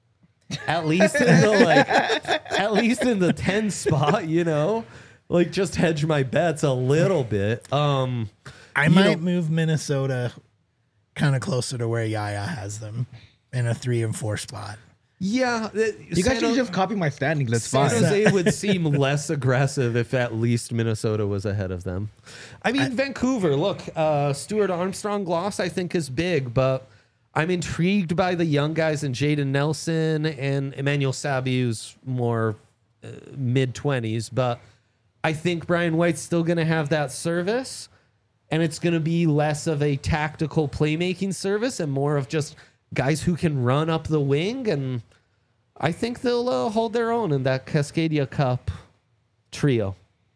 At least in the like at least in the ten spot, you know? Like just hedge my bets a little bit. Um I You might know- move Minnesota kind of closer to where Yaya has them in a three and four spot. yeah, You guys should just copy my standings. That's San fine. Jose would seem less aggressive if at least Minnesota was ahead of them. I mean, Vancouver, look, uh, Stuart Armstrong loss, I think, is big, but I'm intrigued by the young guys in Jaden Nelson and Emmanuel Sabi, who's more uh, mid-twenties. But I think Brian White's still going to have that service, and it's going to be less of a tactical playmaking service and more of just guys who can run up the wing, and I think they'll uh, hold their own in that Cascadia Cup trio.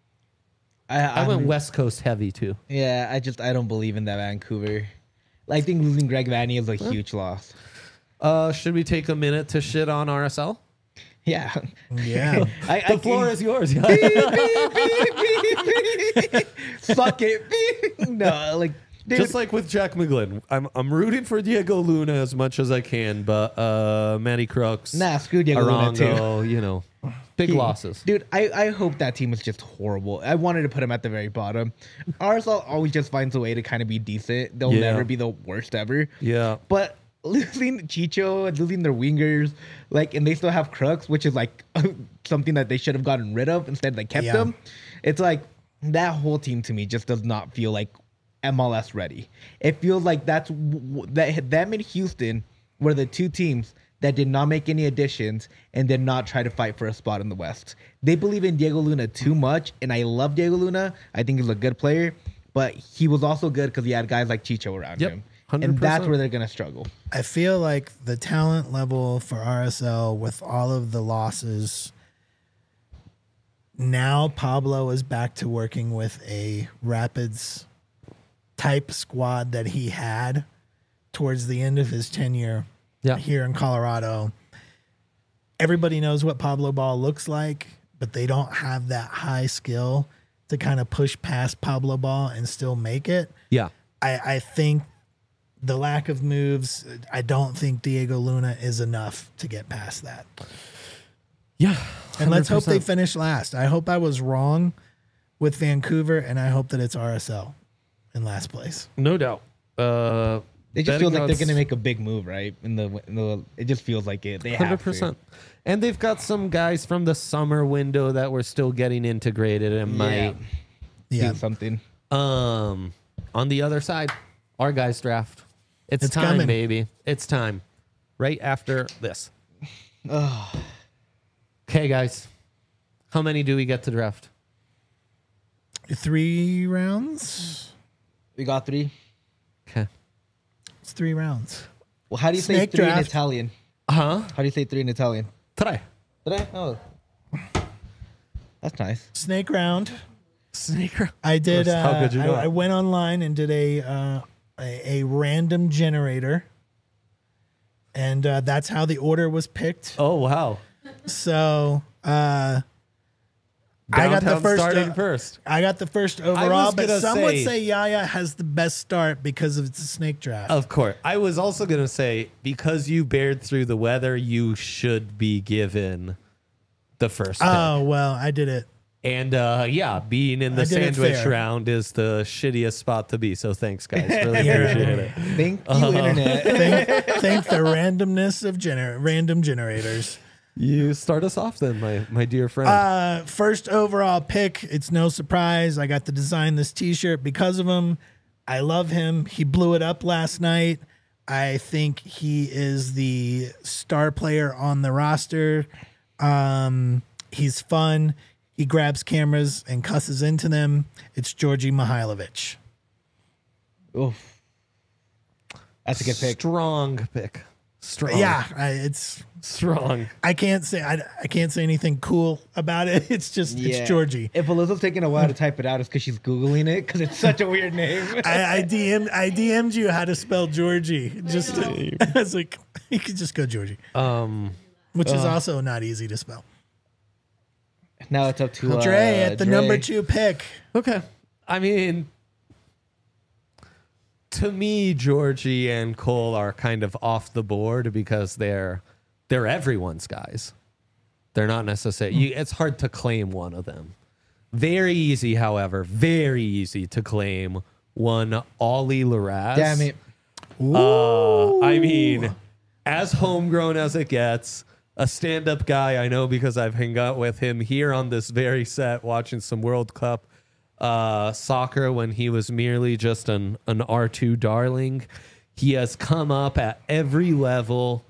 I, I went I'm- West Coast heavy too. Yeah, I just I don't believe in that Vancouver. I think losing Greg Vanney is a huge loss. Uh, should we take a minute to shit on R S L? Yeah. Yeah. I, The I floor is yours. Suck it. No, like dude, Just like with Jack McGlynn, I'm I'm rooting for Diego Luna as much as I can, but uh, Manny Crooks, nah, screw Diego Luna too. Arango, you know, big He- losses. Dude, I, I hope that team is just horrible. I wanted to put him at the very bottom. R S L always just finds a way to kind of be decent. They'll Yeah. never be the worst ever. Yeah, But losing Chicho and losing their wingers, like, and they still have Crooks, which is like something that they should have gotten rid of. Instead, they kept Yeah. them. It's like that whole team to me just does not feel like M L S ready. It feels like that's w- w- that them and Houston were the two teams that did not make any additions and did not try to fight for a spot in the West. They believe in Diego Luna too much, and I love Diego Luna. I think he's a good player, but he was also good because he had guys like Chicho around Yep, him. one hundred And that's percent. where they're going to struggle. I feel like the talent level for R S L with all of the losses, now Pablo is back to working with a Rapids type squad that he had towards the end of his tenure Yeah. here in Colorado. Everybody knows what Pablo Ball looks like, but they don't have that high skill to kind of push past Pablo Ball and still make it. yeah. I, I think the lack of moves, I don't think Diego Luna is enough to get past that. Yeah. And let's hope they one hundred percent. finish last. I hope I was wrong with Vancouver, and I hope that it's R S L in last place. No doubt. Uh, It just betting feels like they're odds- going to make a big move, right? In the, in the, it just feels like it. They one hundred have percent. to. And they've got some guys from the summer window that were still getting integrated and Yeah. might. Yeah. Do something. Um, on the other side, our guys draft. It's, It's time, coming. baby. It's time. Right after this. Okay, guys. How many do we get to draft? Three rounds? We got three. Okay. It's three rounds. Well, how do you say Snake three in draft. Italian? Huh? How do you say three in Italian? Tre. Did I? Oh. That's nice. Snake round. Sneaker. I did. How Uh, could you I, know? I went online and did a uh, a, a random generator, and uh, that's how the order was picked. Oh, wow. So uh, I got the Downtown first. starting uh, first. I got the first overall, but gonna some would say- say Yaya has the best start because of its a snake draft. Of course. I was also going to say, because you bared through the weather, you should be given the first pick. Oh well, I did it And uh, yeah, being in the I did it sandwich fair. round is the shittiest spot to be. So thanks, guys. Really appreciate it. Thank you, internet. thank, thank the randomness of gener- random generators. You start us off then, my my dear friend. Uh, first overall pick. It's no surprise. I got to design this T-shirt because of him. I love him. He blew it up last night. I think he is the star player on the roster. Um, he's fun. He grabs cameras and cusses into them. It's Georgi Mihailovic. Oof. That's a good pick. Strong pick. Strong. Yeah, I, it's. Strong. I can't say I, I can't say anything cool about it. It's just it's Georgie. If Alyssa's taking a while to type it out, it's because she's Googling it because it's such a weird name. I, I D M'd I D M'd you how to spell Georgie. Just to, I was like, you could just go Georgie, Um, which is also not easy to spell. Now it's up to uh, Dre at the Dre. number two pick. okay. I mean, to me, Georgie and Cole are kind of off the board because they're they're everyone's guys. They're not necessarily. You, it's hard to claim one of them. Very easy, however, very easy to claim one Ollie Laraz. Damn it. Uh, I mean, as homegrown as it gets, a stand-up guy I know because I've hung out with him here on this very set watching some World Cup uh, soccer when he was merely just an, an R two darling. He has come up at every level.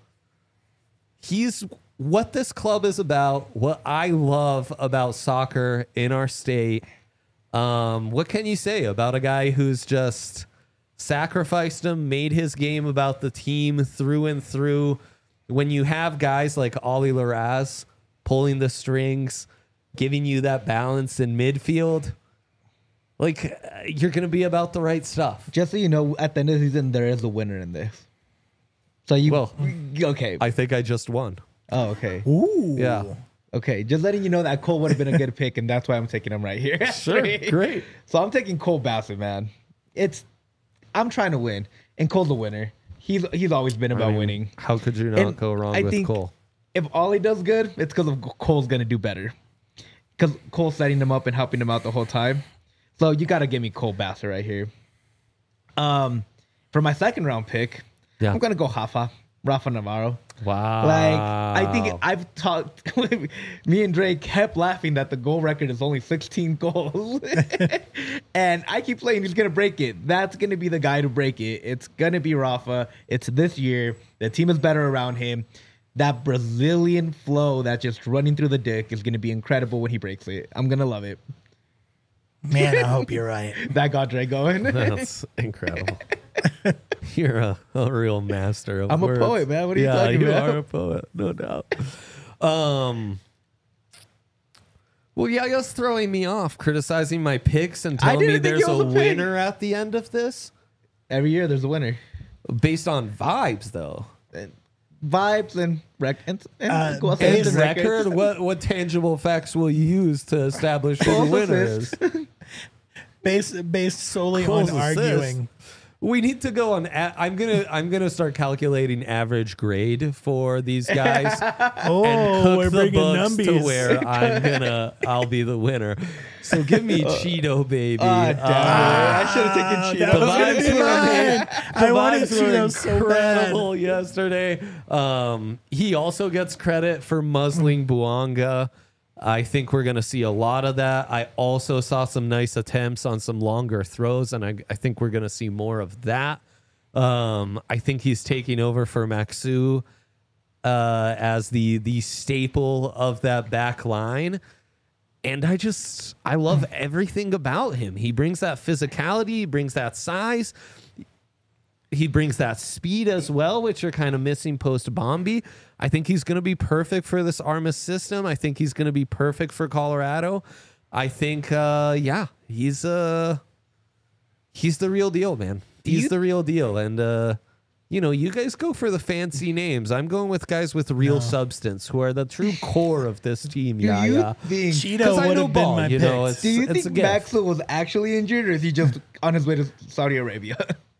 He's what this club is about, what I love about soccer in our state. Um, what can you say about a guy who's just sacrificed him, made his game about the team through and through? When you have guys like Ollie Laraz pulling the strings, giving you that balance in midfield, like uh, you're going to be about the right stuff. Just so you know, at the end of the season, there is a winner in this. So you, Well, okay. I think I just won. Oh, okay. Ooh. Yeah. Okay. Just letting you know that Cole would have been a good pick, and that's why I'm taking him right here. Sure. Great. So I'm taking Cole Bassett, man. It's, I'm trying to win, and Cole's a winner. He's he's always been about I mean, winning. How could you not And go wrong I with think Cole? If Ollie does good, it's because of Cole's gonna do better. Because Cole's setting him up and helping him out the whole time. So you gotta give me Cole Bassett right here. Um, for my second round pick, Yeah. I'm gonna go Rafa, Rafa Navarro. Wow. Like I think I've talked. Me and Dre kept laughing that the goal record is only sixteen goals, and I keep saying he's gonna break it. That's gonna be the guy to break it. It's gonna be Rafa. It's this year. The team is better around him. That Brazilian flow that's just running through the dick is gonna be incredible when he breaks it. I'm gonna love it. Man, I hope you're right. That got Dre going. That's incredible. You're a, a real master of I'm a words. poet, man. What are you yeah, talking you about? are a poet, no doubt. Um, well, yeah, just throwing me off, criticizing my picks and I telling me didn't think there's he was a a pick. winner at the end of this? Every year there's a winner. Based on vibes, though. And vibes and rec and, and Uh, goal based assists And and record, records. what, what tangible facts will you use to establish who the Goals, winner assists. is? Based based solely Goals, on assists. arguing. We need to go on. A- I'm gonna. I'm gonna start calculating average grade for these guys. Oh, and cook we're the bringing books to numbies. where I'm gonna I'll be the winner. So give me Cheeto baby. Ah, damn it. I should have taken Ah, Cheeto. that was The gonna vibes be were- mine. I The wanted vibes were Cheetos so bad. incredible yesterday. Um, he also gets credit for muzzling Buanga. I think we're going to see a lot of that. I also saw some nice attempts on some longer throws, and I, I think we're going to see more of that. Um, I think he's taking over for Maxu uh, as the the staple of that back line. And I just, I love everything about him. He brings that physicality, he brings that size, he brings that speed as well, which are kind of missing post Bombi. I think he's going to be perfect for this Armas system. I think he's going to be perfect for Colorado. I think, uh, yeah, he's uh, he's the real deal, man. He's you- the real deal. And, uh, you know, you guys go for the fancy names. I'm going with guys with real substance who are the true core of this team. Do Yeah, you yeah. think? Cheeto I would know have been ball, my you pick. know, it's- Do you it's a think gift. Maxwell was actually injured, or is he just on his way to Saudi Arabia?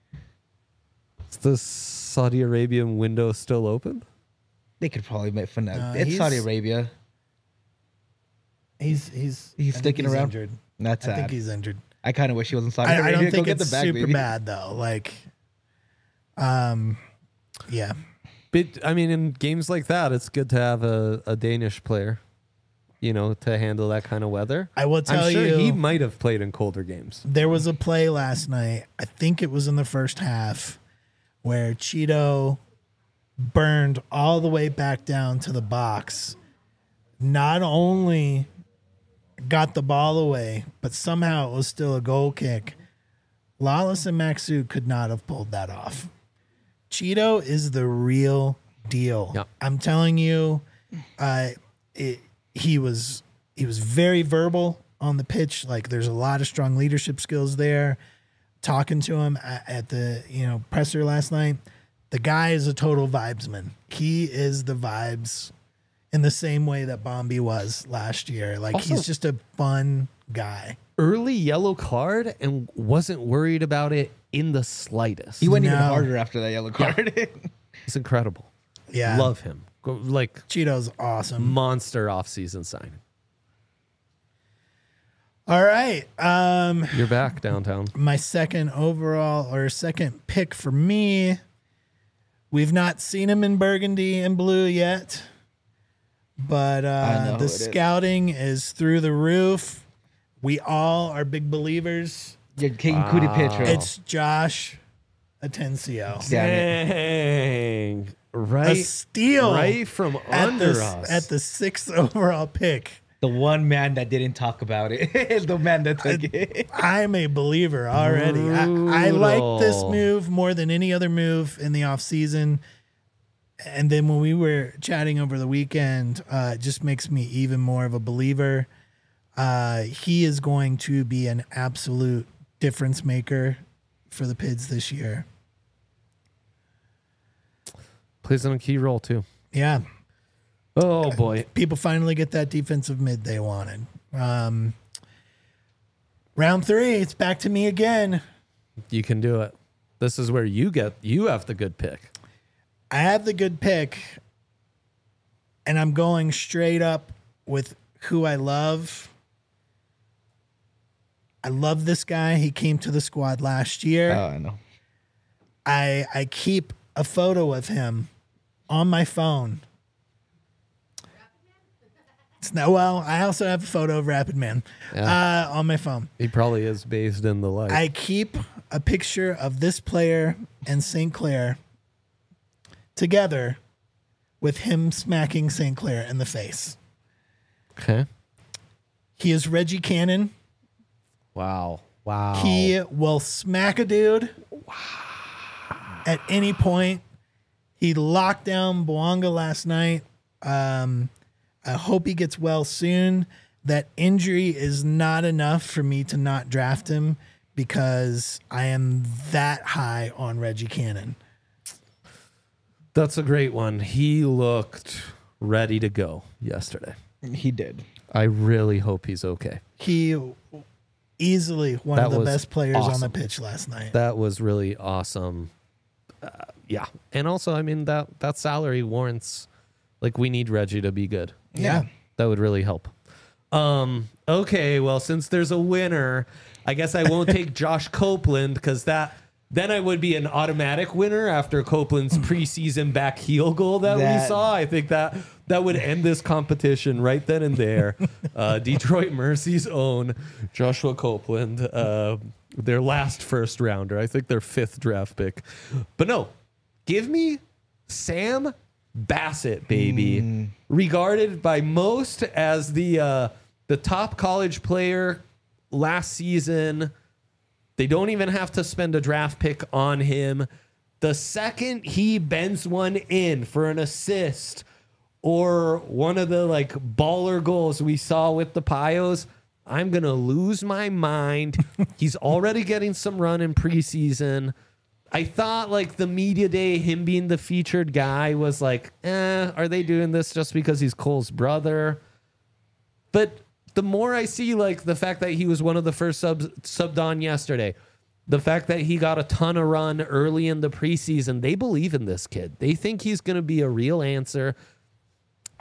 Is the Saudi Arabian window still open? They could probably make fun of No, It's he's- Saudi Arabia. He's he's He's I think sticking he's around? Injured. That's I sad. think he's injured. I kind of wish he wasn't signing. I, I don't Go think get it's the bag, super baby. bad though. Like, um, yeah. But I mean, in games like that, it's good to have a, a Danish player, you know, to handle that kind of weather. I will tell I'm sure you, he might have played in colder games. there was a play last night. I think it was in the first half where Cheeto burned all the way back down to the box. Not only got the ball away, but somehow it was still a goal kick. Lawless and Maxu could not have pulled that off. Cheeto is the real deal. Yep. I'm telling you, uh, it, he was he was very verbal on the pitch. Like there's a lot of strong leadership skills there. Talking to him at, at the you know presser last night, the guy is a total vibesman. He is the vibes in the same way that Bombi was last year. Like Also- he's just a fun guy. Early yellow card and wasn't worried about it in the slightest. He went even No. harder after that yellow card. It's incredible. Yeah, Love him. Go- Like Cheeto's awesome. monster offseason signing. All right. Um, You're back downtown. my second overall or second pick for me. We've not seen him in burgundy and blue yet, but I uh, know the who it is. scouting is through the roof. We all are big believers. Your King Cootie pitch, right? It's Josh Atencio. Damn it. Dang. A Right, steal right from at under the, us. at the sixth overall pick. The one man that didn't talk about it. The man that took it. I'm a believer already. I, I like this Brutal. move more than any other move in the offseason. And then when we were chatting over the weekend, uh, it just makes me even more of a believer. Uh, he is going to be an absolute difference maker for the Pids this year. Plays on a key role too. Yeah. Oh boy. People finally get that defensive mid they wanted. Um, round three, it's back to me again. You can do it. This is where you get you have the good pick. I have the good pick, and I'm going straight up with who I love. I love this guy. He came to the squad last year. Oh, I know. I I keep a photo of him on my phone. It's no well. I also have a photo of Rapid Man Yeah. uh, on my phone. He probably is based in the light. I keep a picture of this player and Saint Clair together with him smacking Saint Clair in the face. okay. He is Reggie Cannon. Wow. Wow. He will smack a dude at any point. He locked down Boanga last night. Um, I hope he gets well soon. That injury is not enough for me to not draft him because I am that high on Reggie Cannon. That's a great one. He looked ready to go yesterday. He did. I really hope he's okay. He easily one That of the was best players on the awesome. pitch last night. That was really awesome. Uh, yeah. And also, I mean, that that salary warrants, like, we need Reggie to be good. Yeah. That would really help. Um, okay, well, since there's a winner, I guess I won't take Josh Copeland because that then I would be an automatic winner after Copeland's preseason back heel goal that, we That- saw. I think that that would end this competition right then and there. Uh, Detroit Mercy's own Joshua Copeland, uh, their last first rounder. I think their fifth draft pick. But no, give me Sam Bassett, baby. Regarded by most as the uh, the top college player last season. They don't even have to spend a draft pick on him. The second he bends one in for an assist or one of the like baller goals we saw with the Pios, I'm going to lose my mind. He's already getting some run in preseason. I thought like the media day, him being the featured guy was like, eh, are they doing this just because he's Cole's brother? But the more I see like the fact that he was one of the first subs subbed on yesterday, the fact that he got a ton of run early in the preseason, they believe in this kid. They think he's going to be a real answer.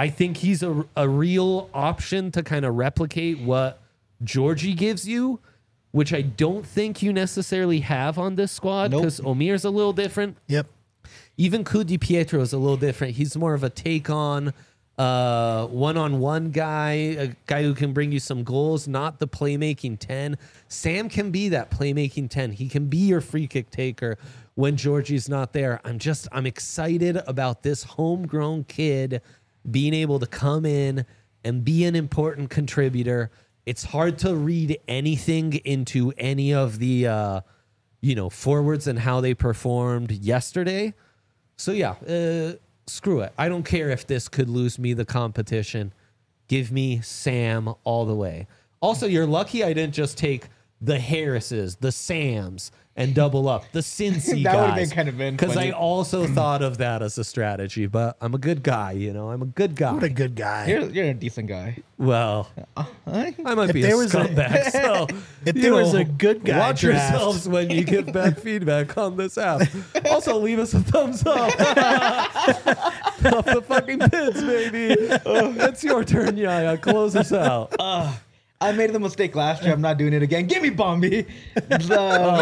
I think he's a, a real option to kind of replicate what Georgie gives you, which I don't think you necessarily have on this squad because nope. Omir's a little different. Yep. Even Cudi Pietro is a little different. He's more of a take on uh, one-on-one guy, a guy who can bring you some goals, not the playmaking ten. Sam can be that playmaking ten. He can be your free kick taker when Georgie's not there. I'm just, I'm excited about this homegrown kid being able to come in and be an important contributor. It's hard to read anything into any of the, uh, you know, forwards and how they performed yesterday. So, yeah, uh, screw it. I don't care if this could lose me the competition. Give me Sam all the way. Also, you're lucky I didn't just take the Harrises, the Sams, and double up the Cincy that guys. That would have been kind of been because I also thought of that as a strategy. But I'm a good guy, you know. I'm a good guy. What a good guy. You're, you're a decent guy. Well, uh, I might if be a scumbag. A, so if there know, was a good guy, watch draft. yourselves when you give bad feedback on this app. Also, leave us a thumbs up. Off the fucking pits, baby. It's your turn, Yaya. Close us out. Uh, I made the mistake last year. I'm not doing it again. Give me Bombi. So,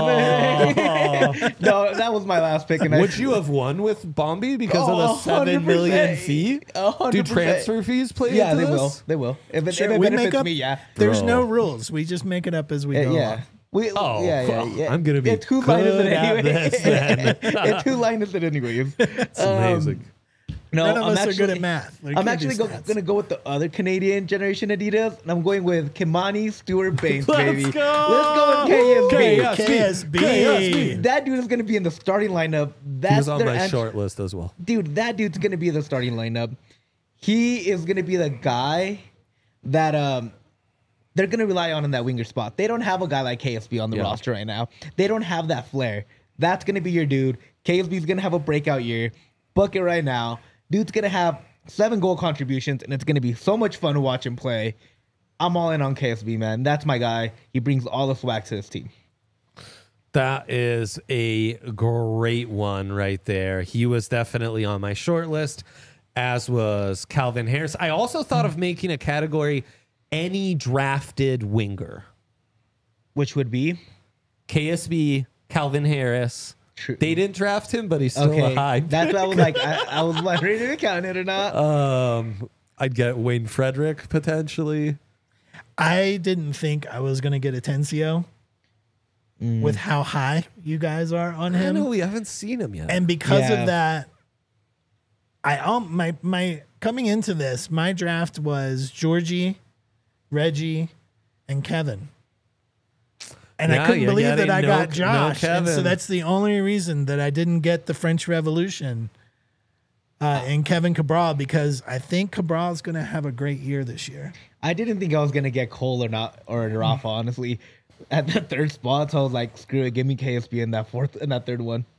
no, that was my last pick. And Would I, you have won with Bombi because oh, of the seven million fee? one hundred percent. Do transfer fees play Yeah, into they this? will. They will. If it, Sure, if it we benefits make up, me, yeah. There's Bro. no rules. We just make it up as we Uh, go. yeah. along. We, Oh, yeah, yeah, yeah. I'm gonna be It's who line is it good at anyway? this, then. It's who line is it anyways? It's amazing. No, None of I'm us actually, are good at math. We I'm can't actually do go, stats. gonna go with the other Canadian generation Adidas, and I'm going with Kimani Stewart Baines, Let's baby. go! Let's go with K S B. K S B. K S B. K S B. That dude is gonna be in the starting lineup. That's He was on their my ant- short list as well. Dude, that dude's gonna be in the starting lineup. He is gonna be the guy that um they're gonna rely on in that winger spot. They don't have a guy like K S B on the Yeah. roster right now. They don't have that flair. That's gonna be your dude. K S B's gonna have a breakout year. Book it right now. Dude's gonna have seven goal contributions, and it's gonna be so much fun to watch him play. I'm all in on K S B, man. That's my guy. He brings all the swag to his team. That is a great one right there. He was definitely on my short list, as was Calvin Harris. I also thought of making a category any drafted winger. Which would be K S B, Calvin Harris. True. They didn't draft him, but he's still okay. a high. That's what I was like. I, I was like, ready to count it or not. Um, I'd get Wayne Frederick potentially. I didn't think I was going to get Atencio Mm. with how high you guys are on I him. know we haven't seen him yet. And because Yeah. of that, I um my my coming into this, my draft was Georgie, Reggie, and Kevin. And Yeah, I couldn't you're believe that getting I no- got no Josh. And so Kevin. that's the only reason that I didn't get the French Revolution uh, in Kevin Cabral, because I think Cabral is going to have a great year this year. I didn't think I was gonna get Cole or not or Rafa, honestly. At the third spot, so I was like, screw it, give me K S B in that fourth in that third one.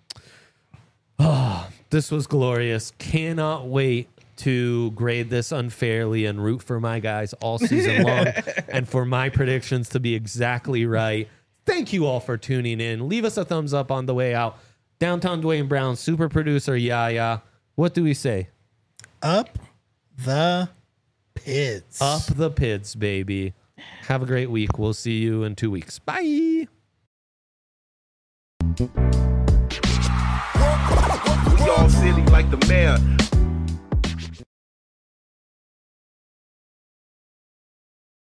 This was glorious. Cannot wait to grade this unfairly and root for my guys all season long and for my predictions to be exactly right. Thank you all for tuning in. Leave us a thumbs up on the way out. Downtown Dwayne Brown, super producer Yaya. What do we say? Up the pits. Up the pids, baby. Have a great week. We'll see you in two weeks. Bye. We all silly like the mayor.